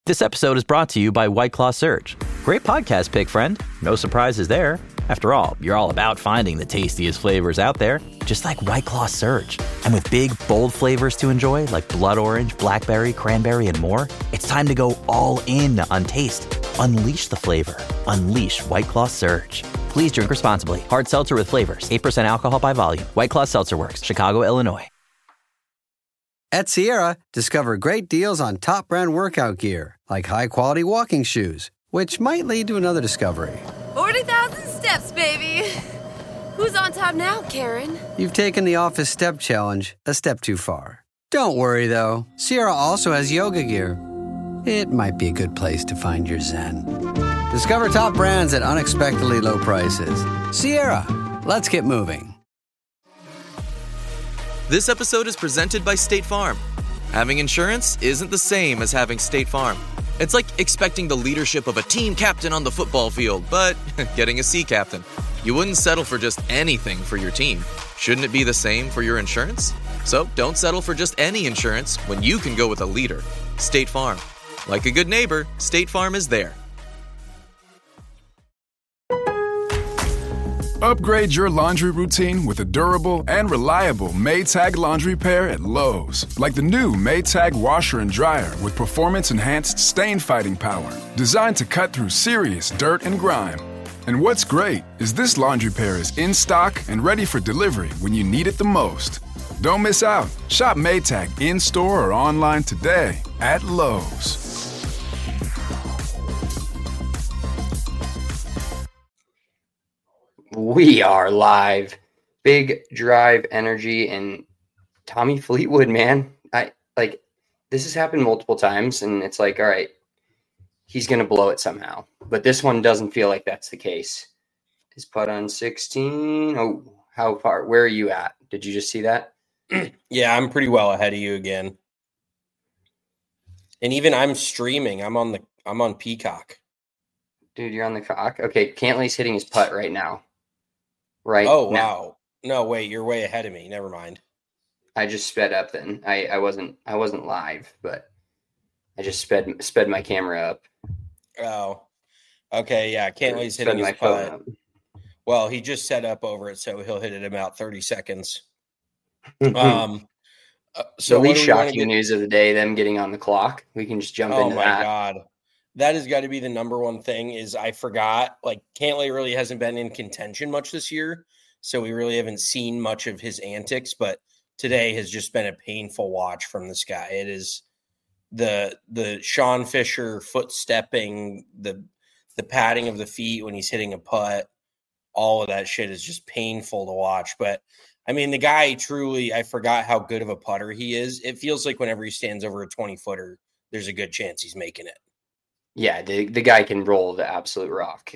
This episode is brought to you by White Claw Surge. Great podcast pick, friend. No surprises there. After all, you're all about finding the tastiest flavors out there, just like White Claw Surge. And with big, bold flavors to enjoy, like blood orange, blackberry, cranberry, and more, it's time to go all in on taste. Unleash the flavor. Unleash White Claw Surge. Please drink responsibly. Hard seltzer with flavors. 8% alcohol by volume. White Claw Seltzer Works. Chicago, Illinois. At Sierra, discover great deals on top brand workout gear, like high-quality walking shoes, which might lead to another discovery. 40,000 steps, baby. Who's on top now, Karen? You've taken the office step challenge a step too far. Don't worry, though. Sierra also has yoga gear. It might be a good place to find your zen. Discover top brands at unexpectedly low prices. Sierra, let's get moving. This episode is presented by State Farm. Having insurance isn't the same as having State Farm. It's like expecting the leadership of a team captain on the football field, but getting a sea captain. You wouldn't settle for just anything for your team. Shouldn't it be the same for your insurance? So don't settle for just any insurance when you can go with a leader. State Farm. Like a good neighbor, State Farm is there. Upgrade your laundry routine with a durable and reliable Maytag laundry pair at Lowe's. Like the new Maytag washer and dryer with performance-enhanced stain-fighting power. Designed to cut through serious dirt and grime. And what's great is this laundry pair is in stock and ready for delivery when you need it the most. Don't miss out. Shop Maytag in-store or online today at Lowe's. We are live. Big Drive Energy and Tommy Fleetwood, man. This has happened multiple times, and it's like, all right, he's going to blow it somehow. But this one doesn't feel like that's the case. His putt on 16. Oh, how far? Where are you at? Did you just see that? Yeah, I'm pretty well ahead of you again. And even I'm streaming. I'm on Peacock. Dude, you're on the cock. Okay, Cantley's hitting his putt right now. Right. Oh, now. wow. No, wait, you're way ahead of me. Never mind. I just sped up then. I wasn't live, but I just sped my camera up. Oh. Okay, yeah. Cantley's hitting his putt. Well, he just set up over it, so he'll hit it in about 30 seconds. So the least shocking news of the day, them getting on the clock. We can just jump into that. Oh my God. That has got to be the number one thing is I forgot, like Cantlay really hasn't been in contention much this year. So we really haven't seen much of his antics, but today has just been a painful watch from this guy. It is the Sean Fisher foot stepping, the patting of the feet when he's hitting a putt. All of that shit is just painful to watch. But I mean, the guy truly, I forgot how good of a putter he is. It feels like whenever he stands over a 20-footer, there's a good chance he's making it. Yeah, the guy can roll the absolute rock.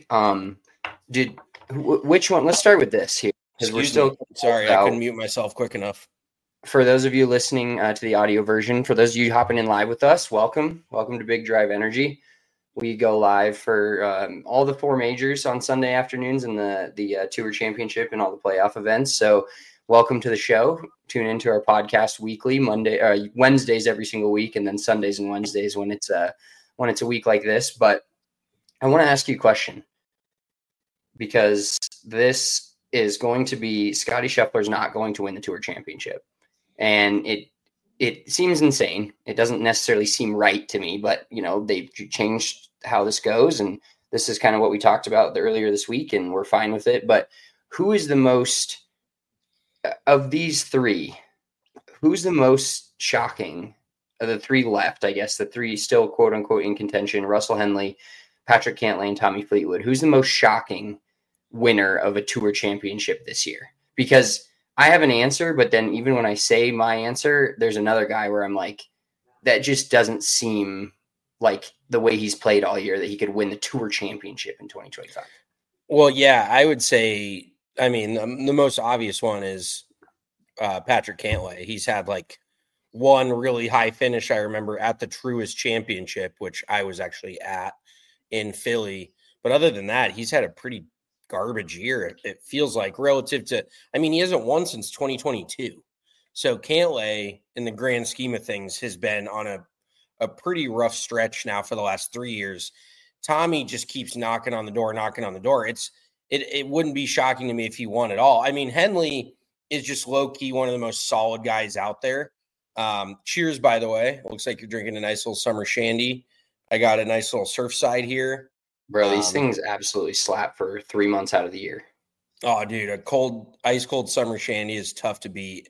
Which one? Let's start with this here. Sorry, I couldn't mute myself quick enough. For those of you listening to the audio version, for those of you hopping in live with us, welcome to Big Drive Energy. We go live for all the four majors on Sunday afternoons and the Tour Championship and all the playoff events. So welcome to the show. Tune into our podcast weekly, Wednesdays every single week, and then Sundays and Wednesdays when it's a week like this. But I want to ask you a question, because this is going to be Scotty Scheffler's not going to win the Tour Championship. And it seems insane. It doesn't necessarily seem right to me, but they've changed how this goes. And this is kind of what we talked about earlier this week, and we're fine with it. But who is the most of these three? Who's the most shocking of the three left? I guess the three still quote unquote in contention: Russell Henley, Patrick Cantlay, and Tommy Fleetwood. Who's the most shocking winner of a Tour Championship this year? Because I have an answer, but then even when I say my answer, there's another guy where I'm like, that just doesn't seem like the way he's played all year that he could win the Tour Championship in 2025. Well, yeah, I would say, I mean, the most obvious one is Patrick Cantlay. He's had like one really high finish, I remember, at the Truist Championship, which I was actually at in Philly. But other than that, he's had a pretty garbage year, it feels like, relative to, I mean, he hasn't won since 2022. So Cantlay, in the grand scheme of things, has been on a pretty rough stretch now for the last 3 years. Tommy just keeps knocking on the door. It wouldn't be shocking to me if he won at all. I mean, Henley is just low key one of the most solid guys out there. Cheers, by the way. Looks like you're drinking a nice little summer shandy. I got a nice little Surfside here. Bro, these things absolutely slap for 3 months out of the year. Oh, dude, a ice cold summer shandy is tough to beat.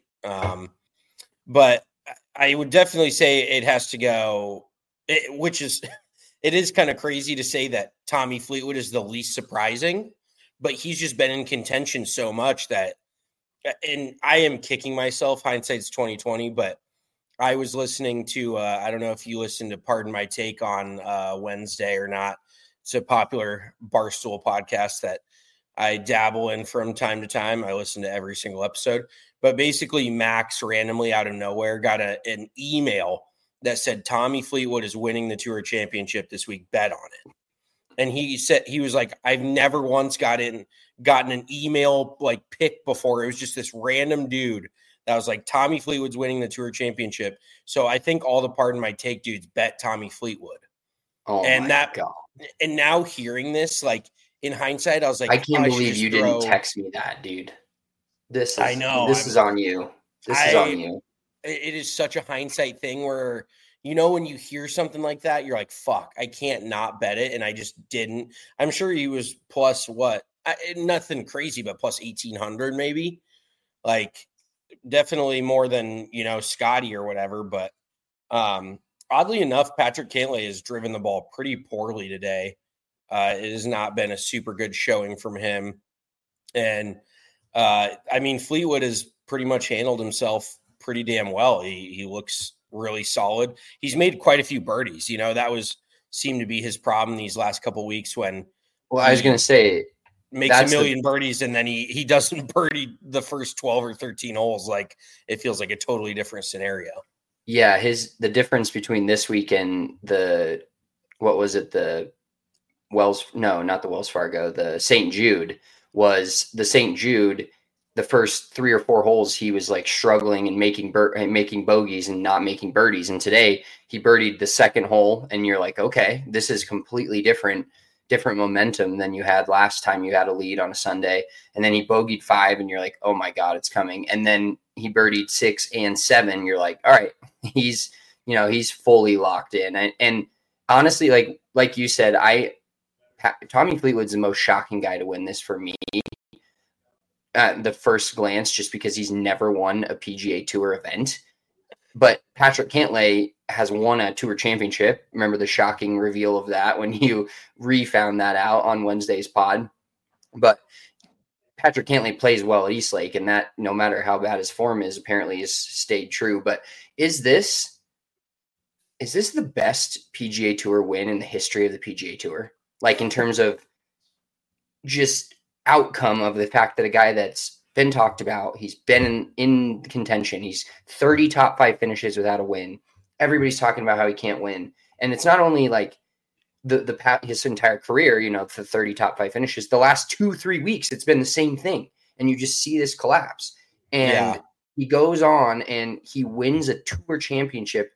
But I would definitely say it has to go, it is kind of crazy to say that Tommy Fleetwood is the least surprising, but he's just been in contention so much that, and I am kicking myself, hindsight's 2020, but I was listening to, I don't know if you listened to Pardon My Take on Wednesday or not. It's a popular Barstool podcast that I dabble in from time to time. I listen to every single episode. But basically, Max randomly out of nowhere got an email that said Tommy Fleetwood is winning the Tour Championship this week. Bet on it. And he said, he was like, I've never once gotten an email like pick before. It was just this random dude that was like, Tommy Fleetwood's winning the Tour Championship. So I think all the Pardon My Take dudes bet Tommy Fleetwood. Oh, and my God. And now hearing this, like in hindsight, I was like, I can't believe you didn't text me that, dude. I know. This is on you. This is on you. It is such a hindsight thing where, you know, when you hear something like that, you're like, fuck, I can't not bet it. And I just didn't. I'm sure he was plus what? Nothing crazy, but plus 1,800 maybe. Like definitely more than, you know, Scotty or whatever. But oddly enough, Patrick Cantlay has driven the ball pretty poorly today. It has not been a super good showing from him. And I mean, Fleetwood has pretty much handled himself pretty damn well. He looks really solid. He's made quite a few birdies. You know, that seemed to be his problem these last couple of weeks when. Well, I was going to say, makes a million birdies and then he doesn't birdie the first 12 or 13 holes. Like it feels like a totally different scenario. Yeah, the difference between this week and the St. Jude was the St. Jude. The first 3 or 4 holes, he was like struggling and making bogeys and not making birdies. And today he birdied the second hole, and you're like, okay, this is completely different momentum than you had last time you had a lead on a Sunday. And then he bogeyed 5, and you're like, oh my God, it's coming. And then he birdied 6 and 7. You're like, all right, he's fully locked in. And honestly, like you said, Tommy Fleetwood's the most shocking guy to win this for me. At the first glance, just because he's never won a PGA Tour event. But Patrick Cantlay has won a Tour Championship. Remember the shocking reveal of that when you refound that out on Wednesday's pod. But Patrick Cantlay plays well at Eastlake, and that, no matter how bad his form is, apparently has stayed true. But is this the best PGA Tour win in the history of the PGA Tour? Like in terms of just outcome of the fact that a guy that's been talked about, he's been in contention, he's 30 top 5 finishes without a win. Everybody's talking about how he can't win. And it's not only like his entire career, you know, the 30 top 5 finishes, the last 2-3 weeks, it's been the same thing. And you just see this collapse. And he goes on and he wins a Tour Championship.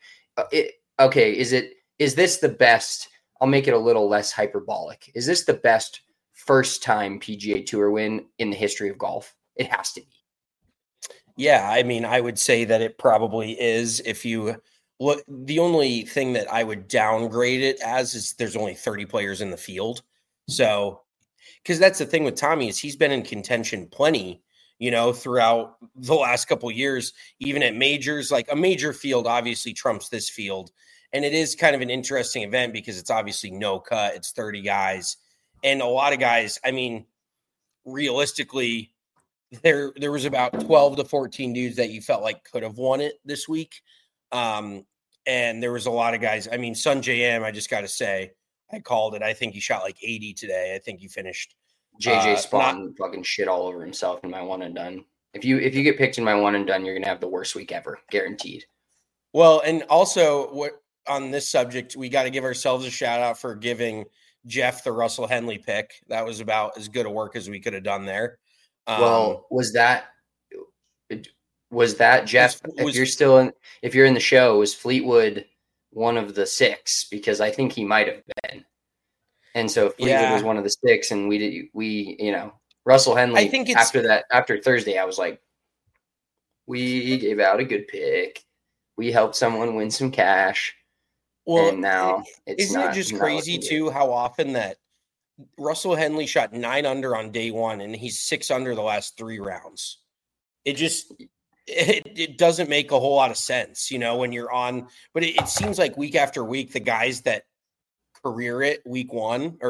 Is this the best? I'll make it a little less hyperbolic. Is this the best first time PGA Tour win in the history of golf? It has to be. Yeah, I mean, I would say that it probably is. If you look, the only thing that I would downgrade it as is there's only 30 players in the field. So, because that's the thing with Tommy is he's been in contention plenty, you know, throughout the last couple of years, even at majors. Like a major field obviously trumps this field. And it is kind of an interesting event because it's obviously no cut. It's 30 guys. And a lot of guys, I mean, realistically, there was about 12 to 14 dudes that you felt like could have won it this week. And there was a lot of guys. I mean, Sungjae Im, I just got to say, I called it. I think he shot like 80 today. I think he finished. JJ Spawn fucking shit all over himself in my one and done. If you get picked in my one and done, you're going to have the worst week ever. Guaranteed. Well, and also on this subject, we got to give ourselves a shout out for giving Jeff the Russell Henley pick. That was about as good a work as we could have done there. Well, was that Jeff? If you're in the show, was Fleetwood one of the 6 because I think he might have been. And so Fleetwood was one of the 6, and Russell Henley. I think it's after Thursday, I was like, we gave out a good pick. We helped someone win some cash. Well, and now isn't it just crazy too how often that Russell Henley shot 9 under on day 1 and he's 6 under the last 3 rounds. It doesn't make a whole lot of sense, when you're on, but it seems like week after week, the guys that career it week 1,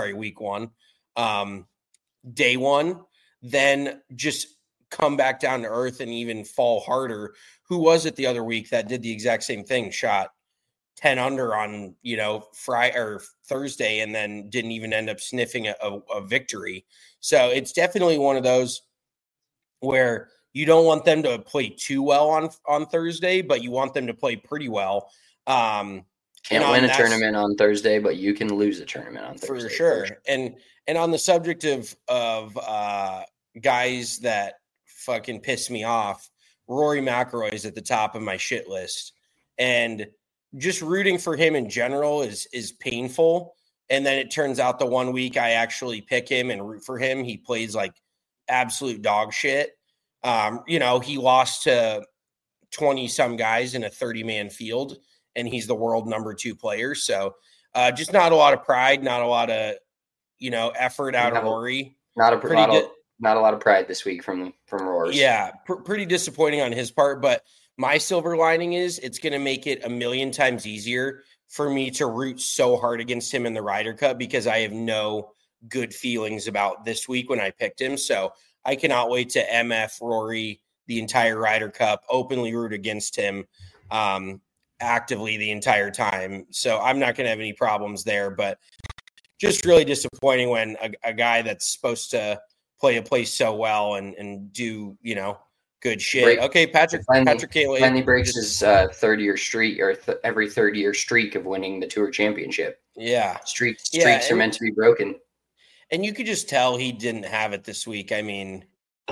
day 1, then just come back down to earth and even fall harder. Who was it the other week that did the exact same thing? Shot 10 under on, Friday or Thursday, and then didn't even end up sniffing a victory. So it's definitely one of those where you don't want them to play too well on Thursday, but you want them to play pretty well. Can't win a tournament on Thursday, but you can lose a tournament on Thursday. For sure. And on the subject of guys that fucking piss me off, Rory McIlroy is at the top of my shit list. And just rooting for him in general is painful. And then it turns out the one week I actually pick him and root for him, he plays like absolute dog shit. He lost to 20 some guys in a 30-man field, and he's the world number 2 player. So just not a lot of pride, not a lot of, effort out of Rory. Not a lot of pride this week from Rory. Yeah. Pretty disappointing on his part, but my silver lining is it's going to make it a million times easier for me to root so hard against him in the Ryder Cup because I have no good feelings about this week when I picked him. So I cannot wait to MF Rory the entire Ryder Cup, openly root against him actively the entire time. So I'm not going to have any problems there, but just really disappointing when a guy that's supposed to play a place so well and do, good shit. Okay, Patrick Cantlay finally breaks his third-year streak or every third-year streak of winning the Tour Championship. Yeah, streaks are meant to be broken. And you could just tell he didn't have it this week. I mean,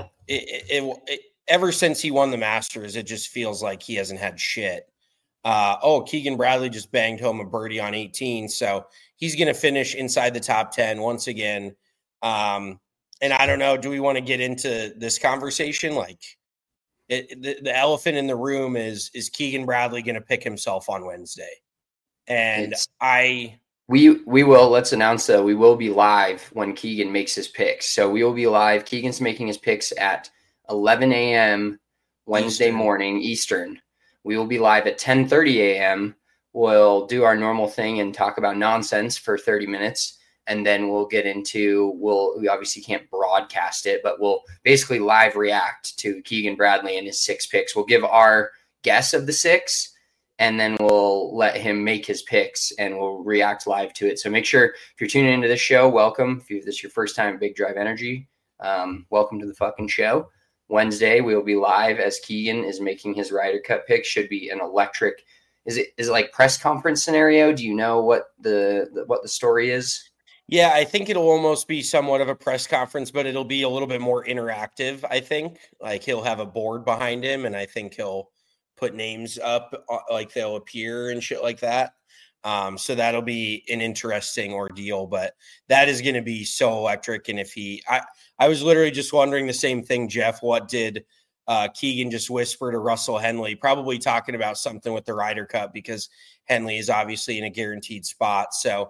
ever since he won the Masters, it just feels like he hasn't had shit. Keegan Bradley just banged home a birdie on 18, so he's going to finish inside the top 10 once again. And I don't know, do we want to get into this conversation? Like, the elephant in the room is Keegan Bradley going to pick himself on Wednesday? And we will, let's announce that we will be live when Keegan makes his picks. So we will be live. Keegan's making his picks at 11 a.m. Wednesday morning Eastern. We will be live at 10:30 a.m. We'll do our normal thing and talk about nonsense for 30 minutes. And then we'll get into, we obviously can't broadcast it, but we'll basically live react to Keegan Bradley and his 6 picks. We'll give our guess of the 6, and then we'll let him make his picks and we'll react live to it. So make sure if you're tuning into this show, welcome. If this is your first time at Big Drive Energy, welcome to the fucking show. Wednesday, we'll be live as Keegan is making his Ryder Cup pick. Should be an electric. Is it like press conference scenario? Do you know what the story is? Yeah, I think it'll almost be somewhat of a press conference, but it'll be a little bit more interactive, I think. Like, he'll have a board behind him, and I think he'll put names up, like they'll appear and shit like that. So that'll be an interesting ordeal, but that is going to be so electric. And if I was literally just wondering the same thing, Jeff, what did Keegan just whisper to Russell Henley? Probably talking about something with the Ryder Cup because Henley is obviously in a guaranteed spot. So,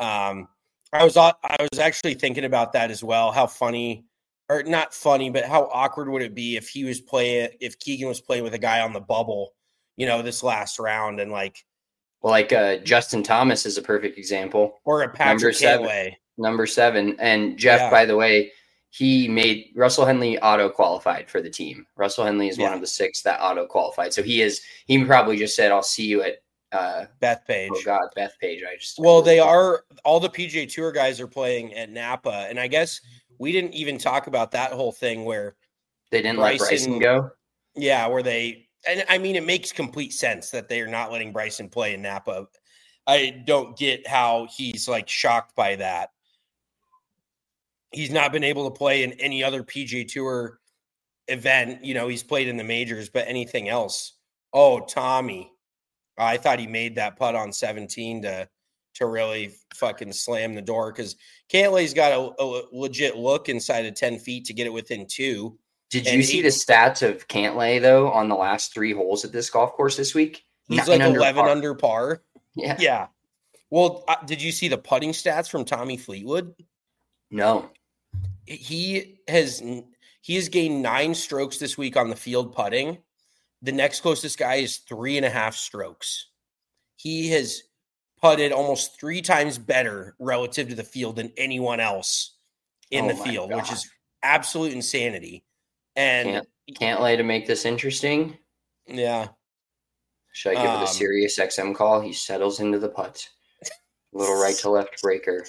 I was actually thinking about that as well. How funny, or not funny, but how awkward would it be if Keegan was playing with a guy on the bubble, this last round, and Justin Thomas is a perfect example, or a Patrick Cantlay, number 7, and Jeff. By the way, he made Russell Henley auto qualified for the team. Russell Henley is one of the 6 that auto qualified, so he probably just said, "I'll see you at." Bethpage. Oh God, Bethpage. They are, all the PGA Tour guys are playing at Napa, and I guess we didn't even talk about that whole thing where they didn't let Bryson go. Yeah, and I mean, it makes complete sense that they are not letting Bryson play in Napa. I don't get how he's shocked by that. He's not been able to play in any other PGA Tour event. He's played in the majors, but anything else. Oh, Tommy. I thought he made that putt on 17 to really fucking slam the door, because Cantlay's got a legit look inside of 10 feet to get it within 2. Did you see the stats of Cantlay, though, on the last 3 holes at this golf course this week? He's like 11 under par. Yeah. Yeah. Well, did you see the putting stats from Tommy Fleetwood? No. He has gained 9 strokes this week on the field putting. The next closest guy is 3.5 strokes. He has putted almost 3 times better relative to the field than anyone else in the field, which is absolute insanity. And Cantlay, to make this interesting. Yeah. Should I give it a Sirius XM call? He settles into the putt. Little right to left breaker.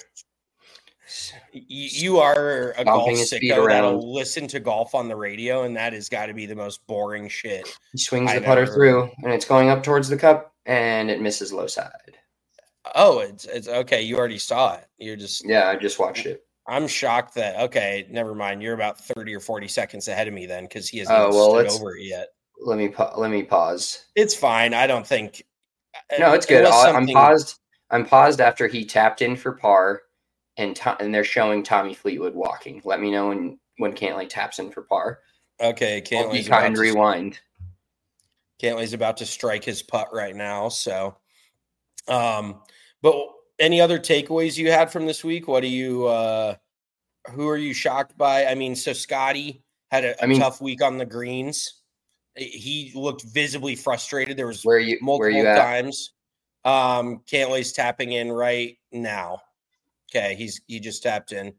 You are a golf sicko that'll listen to golf on the radio, and that has got to be the most boring shit. He swings the putter through, and it's going up towards the cup, and it misses low side. Oh, it's okay. You already saw it. I just watched it. I'm shocked that, okay, never mind. You're about 30 or 40 seconds ahead of me then, because he hasn't stood over it yet. Let me pause. It's fine. I don't think. No, it's good. I'm paused after he tapped in for par, and they're showing Tommy Fleetwood walking. Let me know when Cantlay taps in for par. Okay, Cantlay's about to rewind. Cantlay's about to strike his putt right now. So, but any other takeaways you had from this week? What do you? Who are you shocked by? I mean, so Scotty had a tough week on the greens. He looked visibly frustrated. There was multiple times. Cantlay's tapping in right now. Okay, he just tapped in.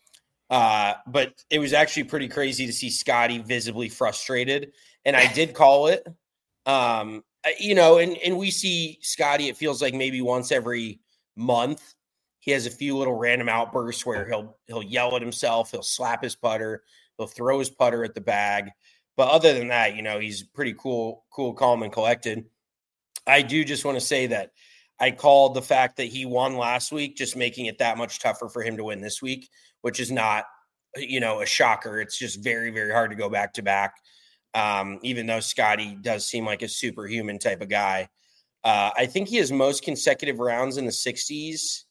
But it was actually pretty crazy to see Scotty visibly frustrated. And I did call it. And we see Scotty, it feels like maybe once every month, he has a few little random outbursts where he'll yell at himself, he'll slap his putter, he'll throw his putter at the bag. But other than that, he's pretty cool, calm, and collected. I do just want to say that I called the fact that he won last week, just making it that much tougher for him to win this week, which is not, a shocker. It's just very, very hard to go back to back. Even though Scotty does seem like a superhuman type of guy. I think he has most consecutive rounds in the 60s,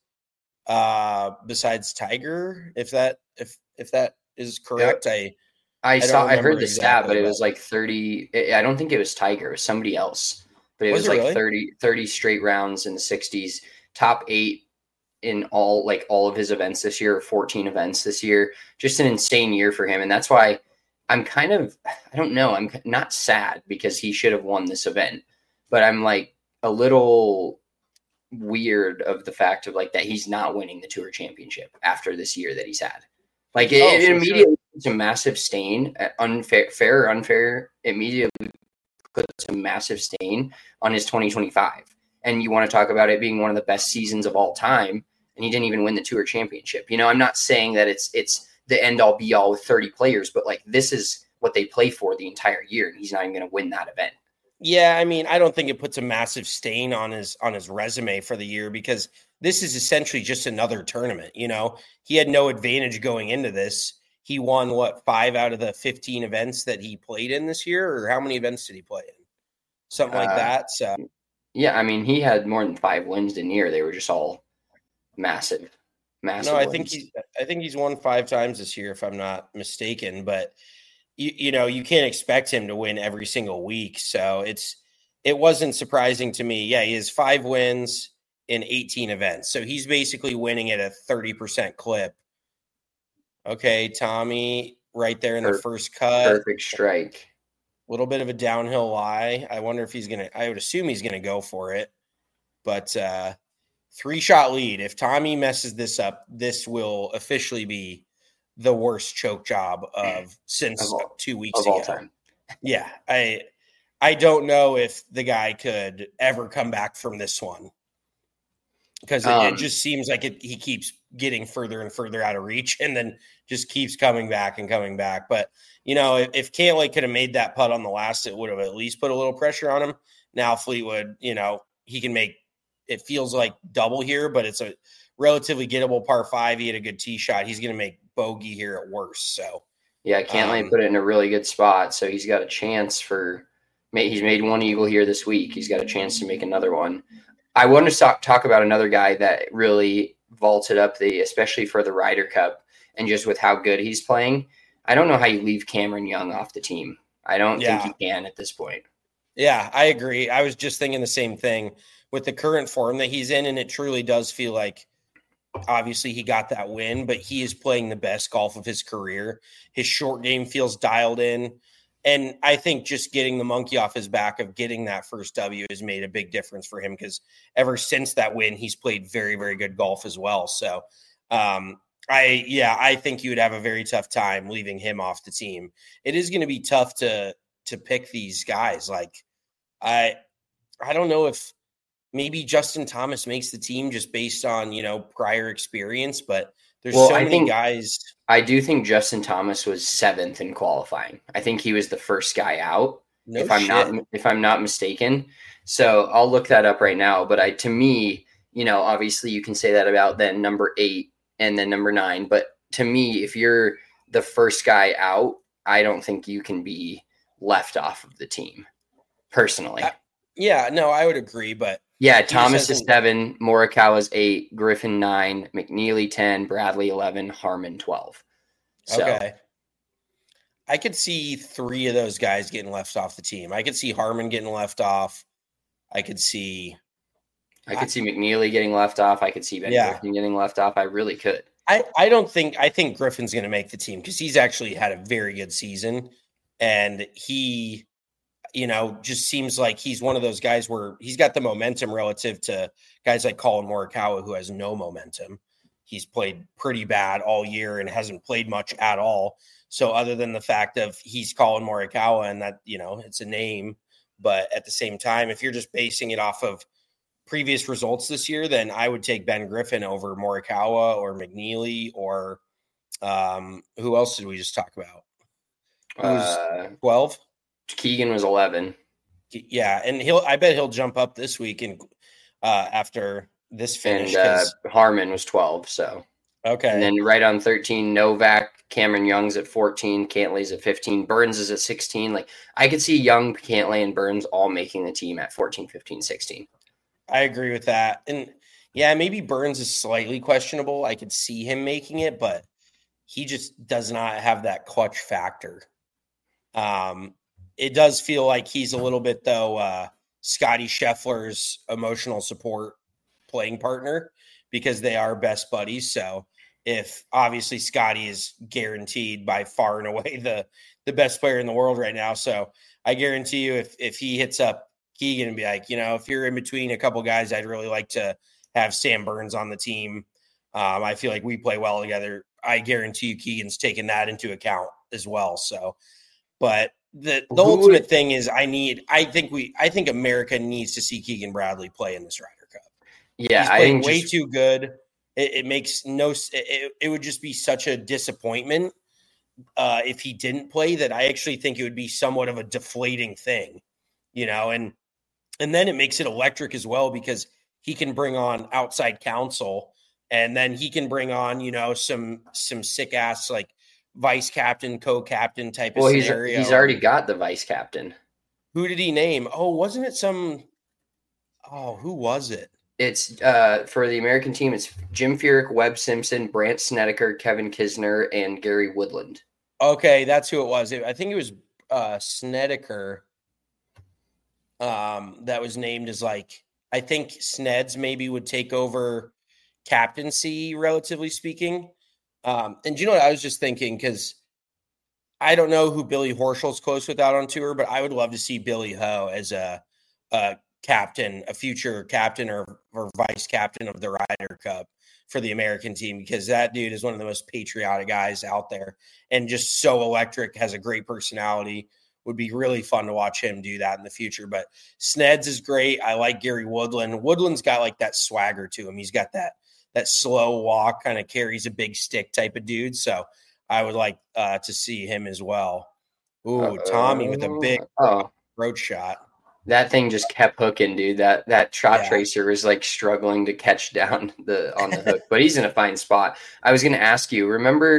besides Tiger, if that is correct. Yeah. I heard the stat, but it was like 30. I don't think it was Tiger. It was somebody else. But it was like really? 30 straight rounds in the 60s. Top 8 in all of his events this year, 14 events this year. Just an insane year for him. And that's why I'm kind of, I don't know, I'm not sad because he should have won this event. But I'm like a little weird of the fact of that he's not winning the Tour Championship after this year that he's had. It immediately puts a massive stain, fair or unfair, immediately puts a massive stain on his 2025. And you want to talk about it being one of the best seasons of all time, and he didn't even win the Tour Championship. I'm not saying that it's the end all be all with 30 players, but this is what they play for the entire year, and he's not even going to win that event. Yeah, I mean, I don't think it puts a massive stain on his resume for the year, because this is essentially just another tournament. He had no advantage going into this. He won 5 out of the 15 events that he played in this year, or how many events did he play in? Something like that. So yeah, I mean, he had more than 5 wins in a year. They were just all massive. No, I think he's won 5 times this year, if I'm not mistaken. But you can't expect him to win every single week. So it wasn't surprising to me. Yeah, he has 5 wins in 18 events. So he's basically winning at a 30% clip. Okay, Tommy, right there in the first cut. Perfect strike. A little bit of a downhill lie. I wonder if he's going to – I would assume he's going to go for it. But 3-shot lead. If Tommy messes this up, this will officially be the worst choke job since 2 weeks ago. Of all time. Yeah, I don't know if the guy could ever come back from this one, because it just seems like he keeps getting further and further out of reach, and then just keeps coming back and coming back. But, if Cantlay could have made that putt on the last, it would have at least put a little pressure on him. Now Fleetwood, he can make, it feels like double here, but it's a relatively gettable par 5. He had a good tee shot. He's going to make bogey here at worst. So yeah, Cantlay put it in a really good spot. So he's got a chance for He's made one eagle here this week. He's got a chance to make another one. I want to talk about another guy that really vaulted up especially for the Ryder Cup and just with how good he's playing. I don't know how you leave Cameron Young off the team. I don't think you can at this point. Yeah, I agree. I was just thinking the same thing with the current form that he's in, and it truly does feel like obviously he got that win, but he is playing the best golf of his career. His short game feels dialed in, and I think just getting the monkey off his back of getting that first W has made a big difference for him because ever since that win, he's played very, very good golf as well. So, I think you would have a very tough time leaving him off the team. It is going to be tough to pick these guys. Like, I don't know if maybe Justin Thomas makes the team just based on, prior experience, but there's many guys. I do think Justin Thomas was 7th in qualifying. I think he was the first guy out, if I'm not mistaken. So I'll look that up right now. But to me, obviously you can say that about then number 8 and then number 9. But to me, if you're the first guy out, I don't think you can be left off of the team personally. I would agree. But yeah, Thomas is 7, Morikawa's 8, Griffin 9, McNeely 10, Bradley 11, Harman 12. Okay. I could see 3 of those guys getting left off the team. I could see Harman getting left off. I could see McNeely getting left off. I could see Ben Griffin getting left off. I really could. I think Griffin's going to make the team because he's actually had a very good season. And he, just seems like he's one of those guys where he's got the momentum relative to guys like Colin Morikawa, who has no momentum. He's played pretty bad all year and hasn't played much at all. So other than the fact of he's Colin Morikawa and that, it's a name, but at the same time, if you're just basing it off of previous results this year, then I would take Ben Griffin over Morikawa or McNeely or who else did we just talk about? Who's 12? Keegan was 11. Yeah, and I bet he'll jump up this week and after this finish. And Harman was 12, so. Okay. And then right on 13, Novak, Cameron Young's at 14, Cantley's at 15, Burns is at 16. Like, I could see Young, Cantley, and Burns all making the team at 14, 15, 16. I agree with that. And yeah, maybe Burns is slightly questionable. I could see him making it, but he just does not have that clutch factor. It does feel like he's a little bit, though, Scotty Scheffler's emotional support playing partner because they are best buddies. So if obviously Scotty is guaranteed by far and away the best player in the world right now. So I guarantee you if he hits up Keegan and be like, if you're in between a couple guys, I'd really like to have Sam Burns on the team. I feel like we play well together. I guarantee you Keegan's taking that into account as well. So, but the ultimate thing is I think America needs to see Keegan Bradley play in this Ryder Cup. Yeah, he's playing way too good. It makes it would just be such a disappointment if he didn't play that I actually think it would be somewhat of a deflating thing, and then it makes it electric as well because he can bring on outside counsel and then he can bring on, some sick ass like vice captain, co-captain type of scenario. He's already got the vice captain. Who did he name? Oh, wasn't it who was it? It's for the American team, it's Jim Furyk, Webb Simpson, Brandt Snedeker, Kevin Kisner, and Gary Woodland. Okay, that's who it was. I think it was Snedeker that was named as I think Sneds maybe would take over captaincy, relatively speaking. And you know what I was just thinking, because I don't know who Billy Horschel's close with out on tour, but I would love to see Billy Ho as a captain, a future captain or vice captain of the Ryder Cup for the American team, because that dude is one of the most patriotic guys out there and just so electric, has a great personality. Would be really fun to watch him do that in the future. But Sneds is great. I like Gary Woodland. Woodland's got that swagger to him. He's got that slow walk, kind of carries a big stick type of dude. So I would like to see him as well. Ooh, Tommy with a big road shot. That thing just kept hooking, dude. That shot tracer was struggling to catch down on the hook, but he's in a fine spot. I was going to ask you, remember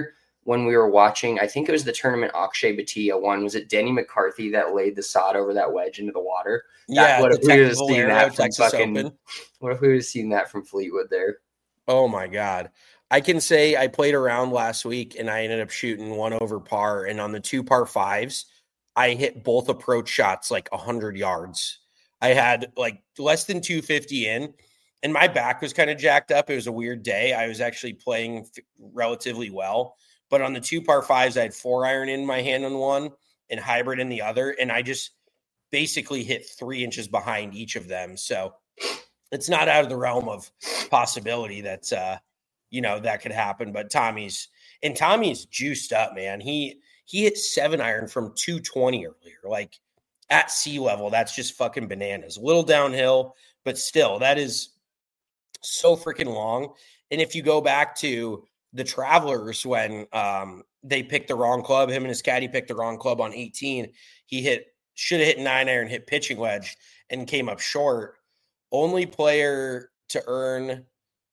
when we were watching, I think it was the tournament Akshay Bhatia won. Was it Denny McCarthy that laid the sod over that wedge into the water? Yeah, What the if we would have Texas seen Valero, that from Texas fucking? Open. What if we would have seen that from Fleetwood there? Oh my God. I can say I played around last week and I ended up shooting 1 over par. And on the 2 par 5s, I hit both approach shots like 100 yards. I had like less than 250 in, and my back was kind of jacked up. It was a weird day. I was actually playing relatively well. But on the 2 par 5s, I had 4-iron in my hand on one and hybrid in the other. And I just basically hit 3 inches behind each of them. So it's not out of the realm of possibility that that could happen. But Tommy's juiced up, man. He hit 7-iron from 220 earlier, like at sea level. That's just fucking bananas. A little downhill, but still, that is so freaking long. And if you go back to the Travelers when they picked the wrong club, him and his caddy picked the wrong club on 18. He should have hit 9-iron, hit pitching wedge, and came up short. Only player to earn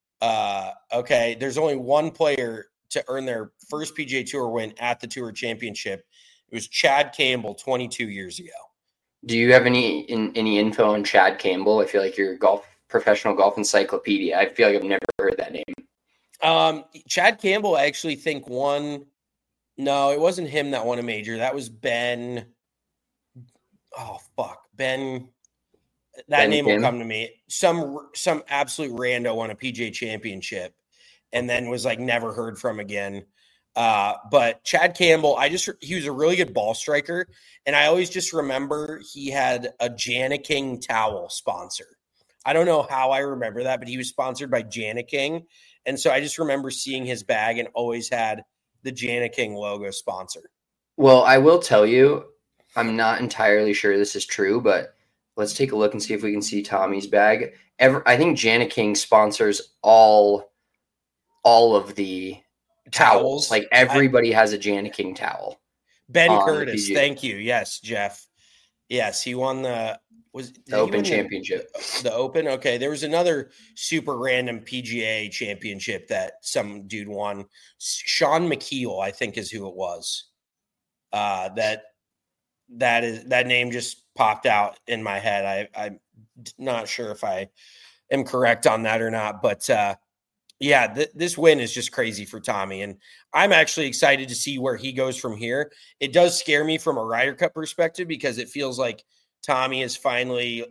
there's only one player to earn their first PGA Tour win at the Tour Championship. It was Chad Campbell 22 years ago. Do you have any info on Chad Campbell? I feel like you're professional golf encyclopedia. I feel like I've never heard that name. Chad Campbell, I actually think won. No, it wasn't him that won a major. That was Ben. Oh fuck, Ben. That name will come to me. Some absolute rando won a PGA Championship, and then was like never heard from again. But Chad Campbell, he was a really good ball striker, and I always just remember he had a Jani-King towel sponsor. I don't know how I remember that, but he was sponsored by Jani-King, and so I just remember seeing his bag and always had the Jani-King logo sponsor. Well, I will tell you, I'm not entirely sure this is true, but let's take a look and see if we can see Tommy's bag. I think Jani-King sponsors all of the towels. Like everybody has a Jani-King towel. Ben Curtis, thank you. Yes, Jeff. Yes, he won the Open Championship. The Open. Okay, there was another super random PGA Championship that some dude won. Sean McKeel, I think, is who it was. That name just popped out in my head. I'm not sure if I am correct on that or not, but this win is just crazy for Tommy, and I'm actually excited to see where he goes from here. It does scare me from a Ryder Cup perspective because it feels like Tommy has finally,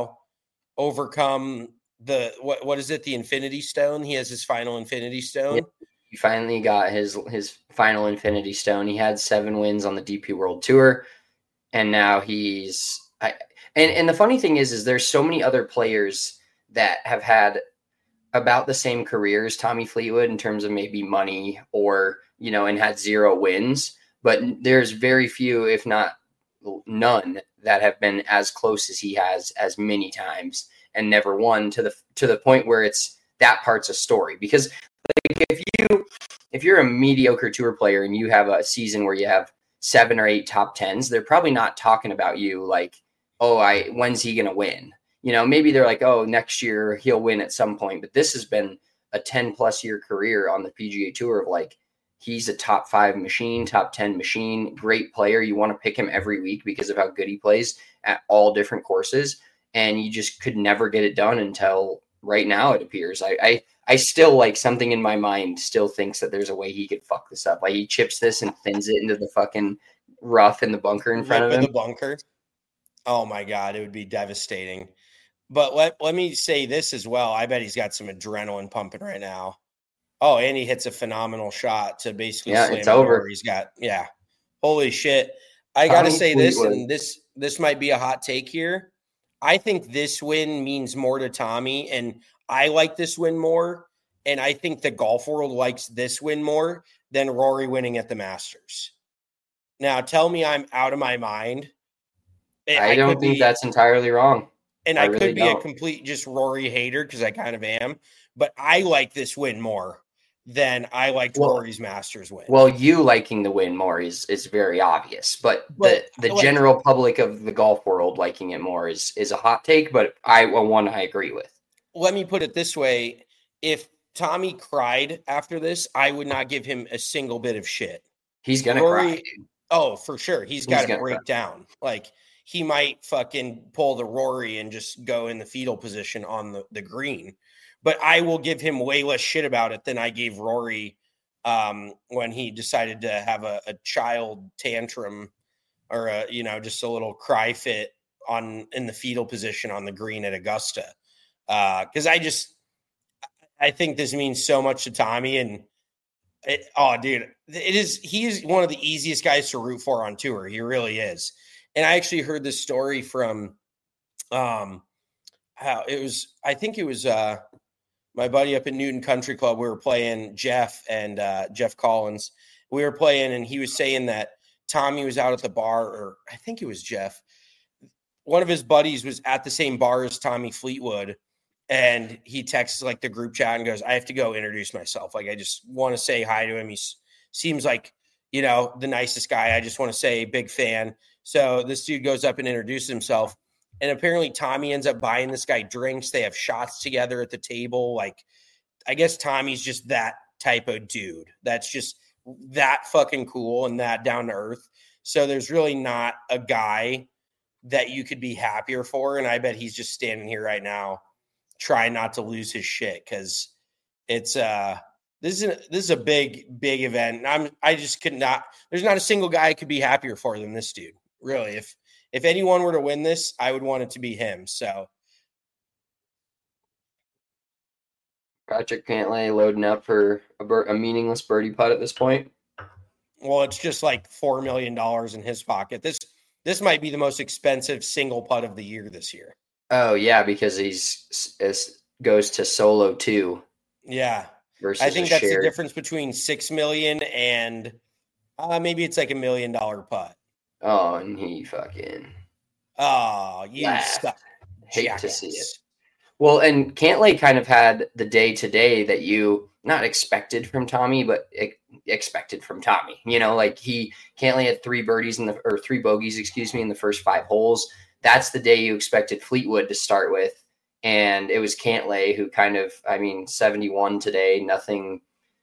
overcome what is it? The Infinity Stone. He has his final Infinity Stone. Yeah, he finally got his final Infinity Stone. He had 7 wins on the DP World Tour. And now and the funny thing is there's so many other players that have had about the same career as Tommy Fleetwood in terms of maybe money or, and had 0 wins, but there's very few, if not none, that have been as close as he has as many times and never won to the point where it's that part's a story. Because like if you're a mediocre tour player and you have a season where you have 7 or 8 top 10s, they're probably not talking about you like, when's he going to win? Maybe they're like, next year he'll win at some point. But this has been a 10+ year career on the PGA Tour of like, he's a top 5 machine, top 10 machine, great player. You want to pick him every week because of how good he plays at all different courses. And you just could never get it done until right now, it appears. I still, like, something in my mind still thinks that there's a way he could fuck this up. Like, he chips this and thins it into the fucking rough in the bunker in front of him. The bunker. Oh my God, it would be devastating. But let me say this as well. I bet he's got some adrenaline pumping right now. Oh, and he hits a phenomenal shot to basically slam it's over. He's got, holy shit. I got to say this, and this might be a hot take here. I think this win means more to Tommy, and I like this win more, and I think the golf world likes this win more than Rory winning at the Masters. Now, tell me I'm out of my mind. I don't think that's entirely wrong. And I could be a complete just Rory hater because I kind of am, but I like this win more than I liked Rory's Masters win. Well, you liking the win more is very obvious, but the general public of the golf world liking it more is a hot take, but I agree with. Let me put it this way. If Tommy cried after this, I would not give him a single bit of shit. He's going to cry. Oh, for sure. He's got to break cry. down. Like, he might fucking pull the Rory and just go in the fetal position on the green. But I will give him way less shit about it than I gave Rory when he decided to have a child tantrum or just a little cry fit in the fetal position on the green at Augusta. Because I think this means so much to Tommy, and he is one of the easiest guys to root for on tour. He really is. And I actually heard this story from my buddy up at Newton Country Club. We were playing Jeff and Jeff Collins. We were playing, and he was saying that Tommy was out at the bar, or I think it was Jeff. One of his buddies was at the same bar as Tommy Fleetwood, and he texts like the group chat and goes, I have to go introduce myself. Like, I just want to say hi to him. He seems like, the nicest guy. I just want to say big fan. So this dude goes up and introduces himself. And apparently Tommy ends up buying this guy drinks. They have shots together at the table. Like, I guess Tommy's just that type of dude. That's just that fucking cool and that down to earth. So there's really not a guy that you could be happier for. And I bet he's just standing here right now trying not to lose his shit, because it's this is a big event. I just could not. There's not a single guy I could be happier for than this dude. Really, if anyone were to win this, I would want it to be him. So Patrick Cantlay loading up for a meaningless birdie putt at this point. Well, it's just like $4 million in his pocket. This might be the most expensive single putt of the year this year. Oh yeah, because goes to solo 2. Yeah, versus I think that's the difference between $6 million and maybe it's like $1 million putt. Oh, and he fucking. Oh, you stuck. Hate to see it. Well, and Cantlay kind of had the day-to-day that you not expected from Tommy, but expected from Tommy. Like Cantlay had 3 bogeys in the first 5 holes. That's the day you expected Fleetwood to start with. And it was Cantlay who kind of, 71 today, nothing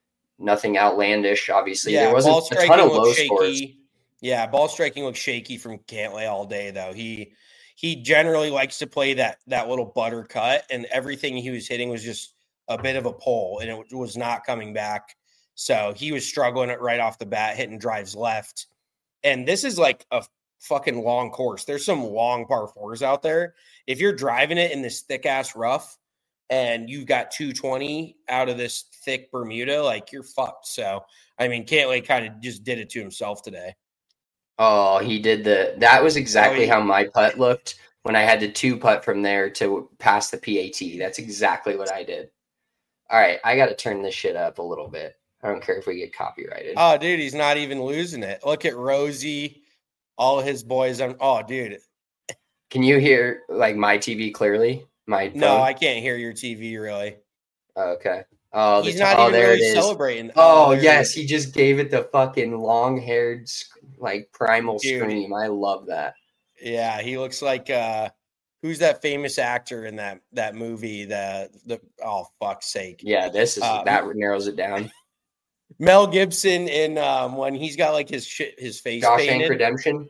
outlandish. Obviously, there wasn't a ton of low scores. Yeah, ball striking looks shaky from Cantlay all day, though. He generally likes to play that little butter cut, and everything he was hitting was just a bit of a pull, and it was not coming back. So he was struggling it right off the bat, hitting drives left. And this is like a fucking long course. There's some long par 4s out there. If you're driving it in this thick ass rough and you've got 220 out of this thick Bermuda, like, you're fucked. So, Cantlay kind of just did it to himself today. Oh, he did that was exactly how my putt looked when I had to 2-putt from there to pass the PAT. That's exactly what I did. All right, I got to turn this shit up a little bit. I don't care if we get copyrighted. Oh, dude, he's not even losing it. Look at Rosie, all of his boys. Oh, dude. Can you hear like my TV clearly? My phone? No, I can't hear your TV really. Okay. Oh, he's not even really celebrating. Oh, yes, he just gave it the fucking long-haired, like, primal scream. I love that. Yeah, he looks like who's that famous actor in that movie? The oh, fuck's sake. Yeah, this is that narrows it down. Mel Gibson in when he's got like his face Shawshank painted. Redemption.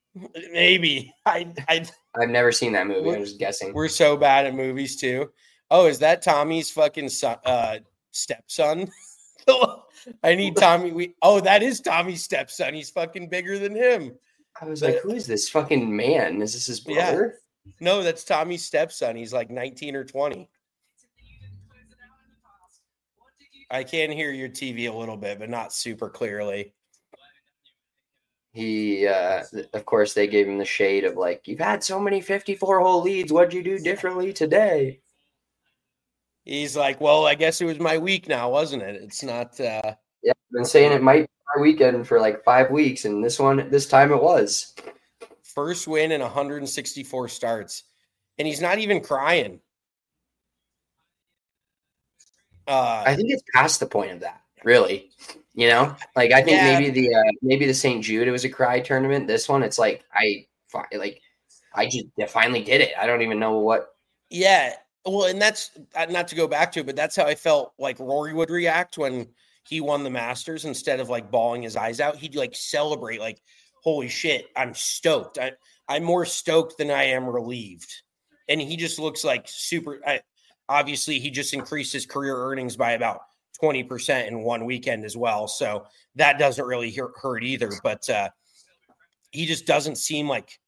Maybe I've never seen that movie. I was guessing. We're so bad at movies too. Oh, is that Tommy's fucking stepson? I need Tommy. That is Tommy's stepson. He's fucking bigger than him. I was like, who is this fucking man? Is this his brother? Yeah. No, that's Tommy's stepson. He's like 19 or 20. I can hear your TV a little bit, but not super clearly. He, of course, they gave him the shade of like, you've had so many 54-hole leads. What'd you do differently today? He's like, well, I guess it was my week now, wasn't it? It's not. Yeah, I've been saying it might be my weekend for like 5 weeks, and this time it was. First win in 164 starts, and he's not even crying. I think it's past the point of that, really. Like I think maybe the St. Jude, it was a cry tournament. This one, it's like I just finally did it. I don't even know what. Yeah. Well, and that's not to go back to it, but that's how I felt like Rory would react when he won the Masters. Instead of like bawling his eyes out, he'd like celebrate, like, holy shit, I'm stoked. I'm more stoked than I am relieved. And he just looks like super. Obviously, he just increased his career earnings by about 20% in one weekend as well. So that doesn't really hurt either. But he just doesn't seem like,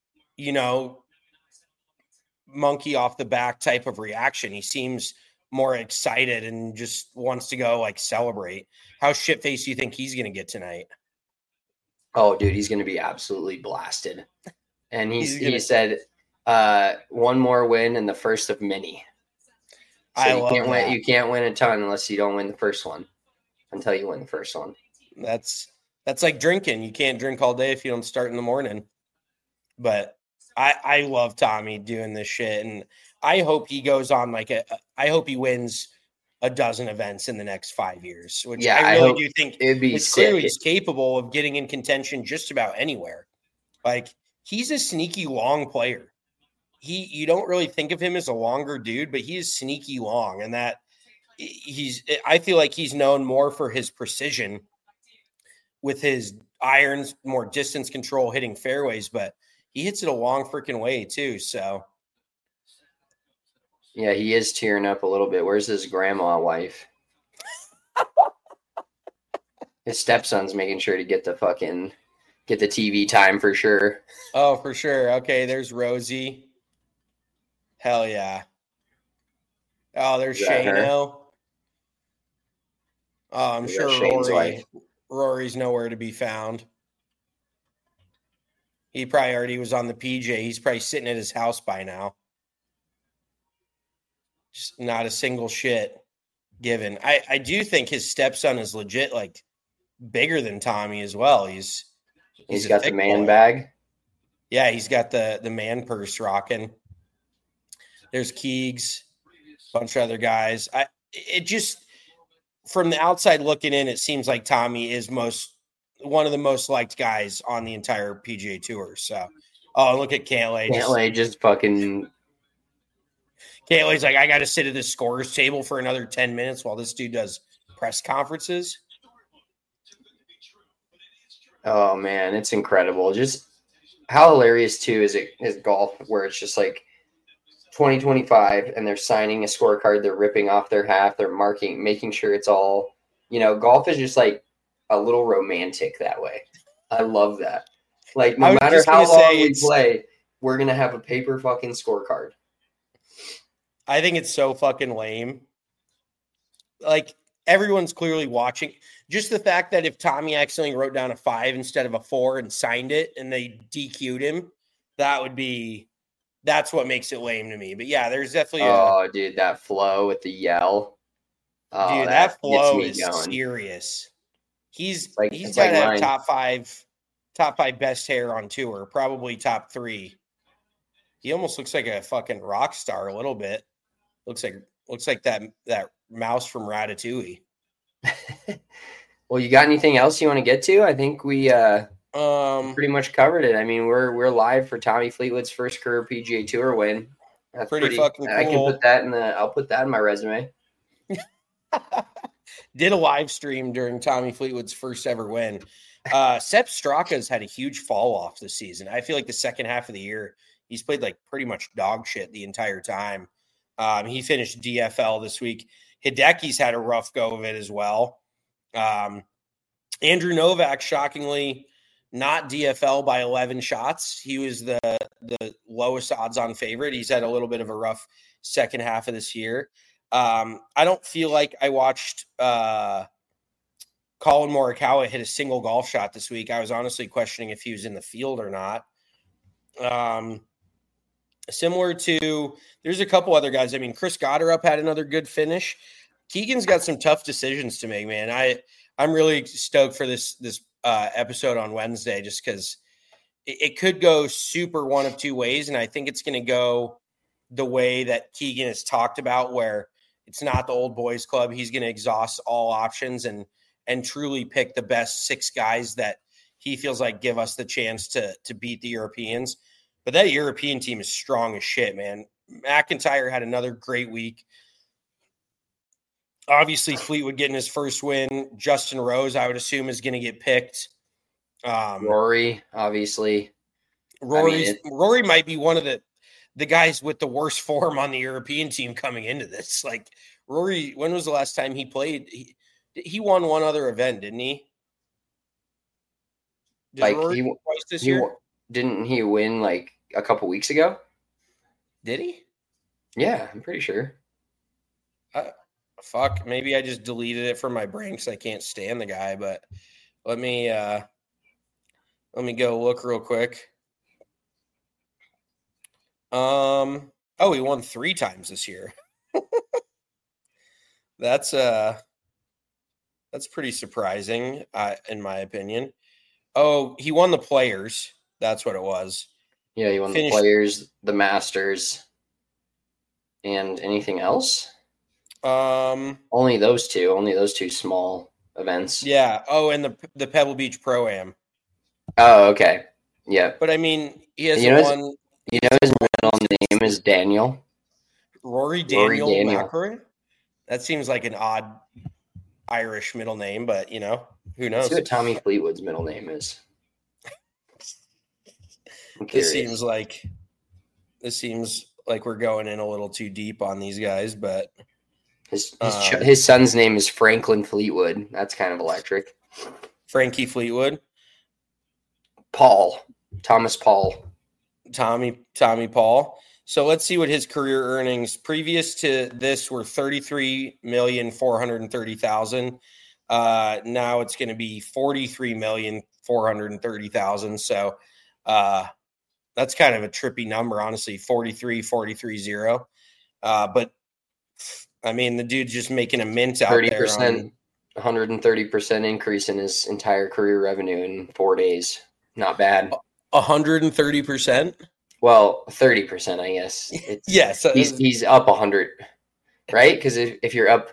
monkey off the back type of reaction. He seems more excited and just wants to go like celebrate. How shit-faced do you think he's going to get tonight? Oh, dude, he's going to be absolutely blasted. And he said one more win and the first of many. So you can't win a ton unless you don't win the first one until you win the first one. That's like drinking. You can't drink all day if you don't start in the morning. But I love Tommy doing this shit, and I hope he goes on I hope he wins a dozen events in the next 5 years. Which I really do think it'd be clearly he's capable of getting in contention just about anywhere. Like, he's a sneaky long player. You don't really think of him as a longer dude, but he is sneaky long, and that I feel like he's known more for his precision with his irons, more distance control, hitting fairways, but he hits it a long freaking way too. So yeah, he is tearing up a little bit. Where's his grandma wife? His stepson's making sure to get the TV time for sure. Oh, for sure. Okay, there's Rosie. Hell yeah. Oh, there's Shano. Oh, I'm sure Rory's nowhere to be found. He probably already was on the PJ. He's probably sitting at his house by now. Just not a single shit given. I do think his stepson is legit, like, bigger than Tommy as well. He's got the man bag. Yeah, he's got the man purse rocking. There's Keegs, a bunch of other guys. It just, from the outside looking in, it seems like Tommy is one of the most liked guys on the entire PGA Tour. So, look at Cantlay. Cantlay just fucking. Cantlay's like, I got to sit at this scorer's table for another 10 minutes while this dude does press conferences. Oh man, it's incredible. Just how hilarious too is golf, where it's just like 2025 and they're signing a scorecard, they're ripping off their half, they're making sure it's all, golf is just like a little romantic that way. I love that. Like, no matter how long we play, we're going to have a paper fucking scorecard. I think it's so fucking lame. Like, everyone's clearly watching. Just the fact that if Tommy accidentally wrote down a 5 instead of a 4 and signed it and they DQ'd him, that's what makes it lame to me. But yeah, there's definitely dude, that flow with the yell. Oh, dude, that flow is serious. He's got to have top five best hair on tour, probably top 3. He almost looks like a fucking rock star a little bit. Looks like that mouse from Ratatouille. Well, you got anything else you want to get to? I think we pretty much covered it. I mean, we're live for Tommy Fleetwood's first career PGA Tour win. That's pretty fucking cool. I can put that I'll put that in my resume. Did a live stream during Tommy Fleetwood's first ever win. Sepp Straka's had a huge fall off this season. I feel like the second half of the year, he's played like pretty much dog shit the entire time. He finished DFL this week. Hideki's had a rough go of it as well. Andrew Novak, shockingly, not DFL by 11 shots. He was the lowest odds on favorite. He's had a little bit of a rough second half of this year. I don't feel like I watched Colin Morikawa hit a single golf shot this week. I was honestly questioning if he was in the field or not. Similar to, there's a couple other guys. I mean, Chris Gotterup had another good finish. Keegan's got some tough decisions to make, man. I'm really stoked for this episode on Wednesday, just because it could go super one of two ways, and I think it's going to go the way that Keegan has talked about, where it's not the old boys club. He's going to exhaust all options and truly pick the best 6 guys that he feels like give us the chance to beat the Europeans. But that European team is strong as shit, man. McIntyre had another great week. Obviously, Fleetwood getting his first win. Justin Rose, I would assume, is going to get picked. Rory, obviously. Rory might be one of the guys with the worst form on the European team coming into this. Like, Rory, when was the last time he played? He won one other event, didn't he? Rory twice this year? Didn't he win like a couple weeks ago? Did he? Yeah, I'm pretty sure. Fuck, maybe I just deleted it from my brain because I can't stand the guy. But let me go look real quick. He won 3 times this year. That's pretty surprising, in my opinion. Oh, he won the Players. That's what it was. Yeah, he won the Players, the Masters, and anything else? Only those two small events. Yeah. Oh, and the Pebble Beach Pro-Am. Oh, okay. Yeah. But I mean, he has one. You know his middle name is Daniel. Rory Daniel McIlroy? That seems like an odd Irish middle name, but who knows? Let's see what Tommy Fleetwood's middle name is. This seems like we're going in a little too deep on these guys, but his son's name is Franklin Fleetwood. That's kind of electric. Frankie Fleetwood. Thomas Paul. Tommy Paul. So let's see what his career earnings previous to this were $33,430,000. Now it's going to be $43,430,000. So that's kind of a trippy number, honestly. 43,0. But I mean, the dude's just making a mint out 30%, there. 130% increase in his entire career revenue in 4 days. Not bad. 130%. Well, 30%, I guess. Yes, he's up 100, right? Because if you're up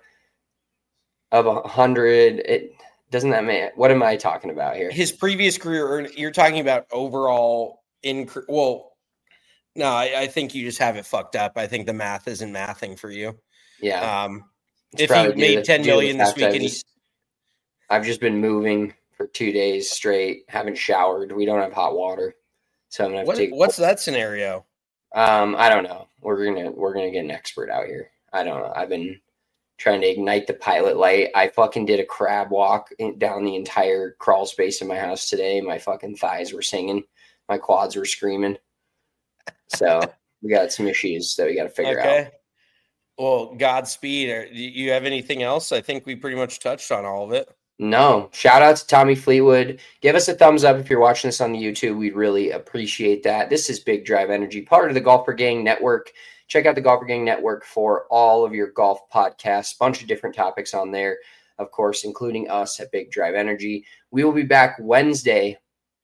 100, it doesn't that mean? What am I talking about here? His previous career, you're talking about overall increase. Well, no, I think you just have it fucked up. I think the math isn't mathing for you. Yeah. If he made $10 million this week, I've just been moving for 2 days straight. Haven't showered. We don't have hot water. So I'm gonna have to take. What's that scenario? I don't know. We're gonna get an expert out here. I don't know. I've been trying to ignite the pilot light. I fucking did a crab walk down the entire crawl space in my house today. My fucking thighs were singing. My quads were screaming. So we got some issues that we got to figure out. Well, Godspeed. Do you have anything else? I think we pretty much touched on all of it. No. Shout out to Tommy Fleetwood. Give us a thumbs up if you're watching this on the YouTube. We'd really appreciate that. This is Big Drive Energy, part of the Golfer Gang Network. Check out the Golfer Gang Network for all of your golf podcasts. Bunch of different topics on there, of course, including us at Big Drive Energy. We will be back Wednesday,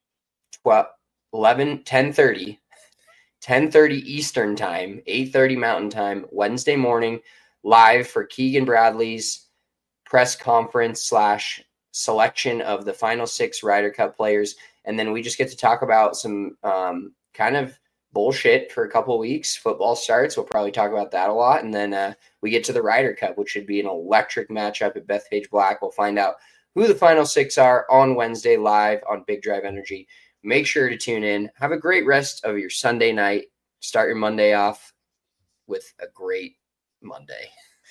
10:30 Eastern time, 8:30 Mountain time, Wednesday morning, live for Keegan Bradley's press conference / selection of the final 6 Ryder Cup players. And then we just get to talk about some kind of bullshit for a couple of weeks. Football starts. We'll probably talk about that a lot. And then we get to the Ryder Cup, which should be an electric matchup at Bethpage Black. We'll find out who the final 6 are on Wednesday live on Big Drive Energy. Make sure to tune in. Have a great rest of your Sunday night. Start your Monday off with a great Monday.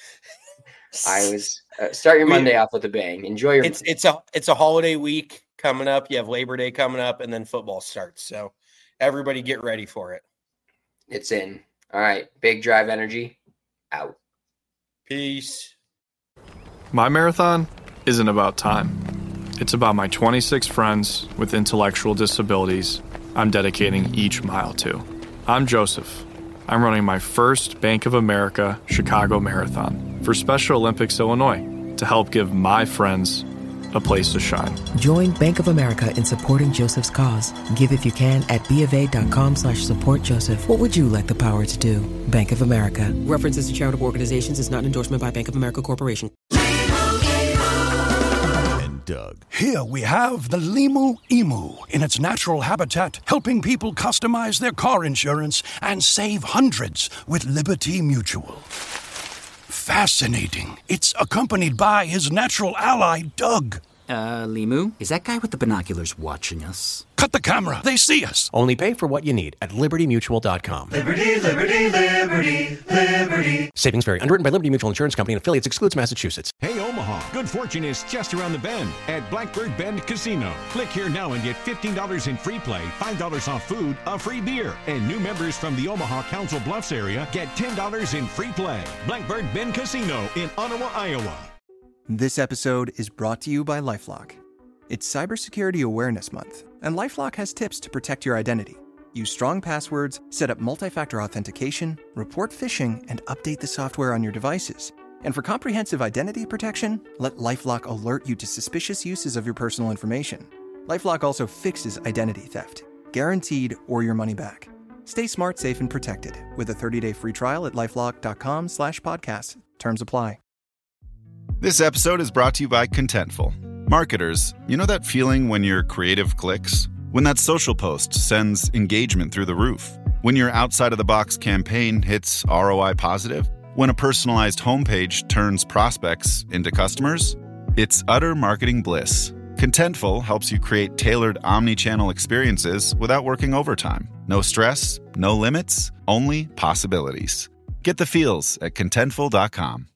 Start your Monday off with a bang. Enjoy your. It's a holiday week coming up. You have Labor Day coming up, and then football starts. So everybody get ready for it. It's in. All right, Big Drive Energy out. Peace. My marathon isn't about time. It's about my 26 friends with intellectual disabilities I'm dedicating each mile to. I'm Joseph. I'm running my first Bank of America Chicago Marathon for Special Olympics Illinois to help give my friends a place to shine. Join Bank of America in supporting Joseph's cause. Give if you can at BofA.com/supportjoseph. What would you like the power to do? Bank of America. References to charitable organizations is not an endorsement by Bank of America Corporation. Doug. Here we have the Limu Emu in its natural habitat, helping people customize their car insurance and save hundreds with Liberty Mutual. Fascinating. It's accompanied by his natural ally, Doug. Limu, is that guy with the binoculars watching us? Cut the camera. They see us. Only pay for what you need at LibertyMutual.com. Liberty, liberty, liberty, liberty. Savings vary. Underwritten by Liberty Mutual Insurance Company and affiliates. Excludes Massachusetts. Hey, Omaha, good fortune is just around the bend at Blackbird Bend Casino. Click here now and get $15 in free play, $5 off food, a free beer. And new members from the Omaha Council Bluffs area get $10 in free play. Blackbird Bend Casino in Ottawa, Iowa. This episode is brought to you by LifeLock. It's Cybersecurity Awareness Month, and LifeLock has tips to protect your identity. Use strong passwords, set up multi-factor authentication, report phishing, and update the software on your devices. And for comprehensive identity protection, let LifeLock alert you to suspicious uses of your personal information. LifeLock also fixes identity theft, guaranteed or your money back. Stay smart, safe, and protected with a 30-day free trial at LifeLock.com/podcast. Terms apply. This episode is brought to you by Contentful. Marketers, you know that feeling when your creative clicks? When that social post sends engagement through the roof? When your outside-of-the-box campaign hits ROI positive? When a personalized homepage turns prospects into customers? It's utter marketing bliss. Contentful helps you create tailored omni-channel experiences without working overtime. No stress, no limits, only possibilities. Get the feels at Contentful.com.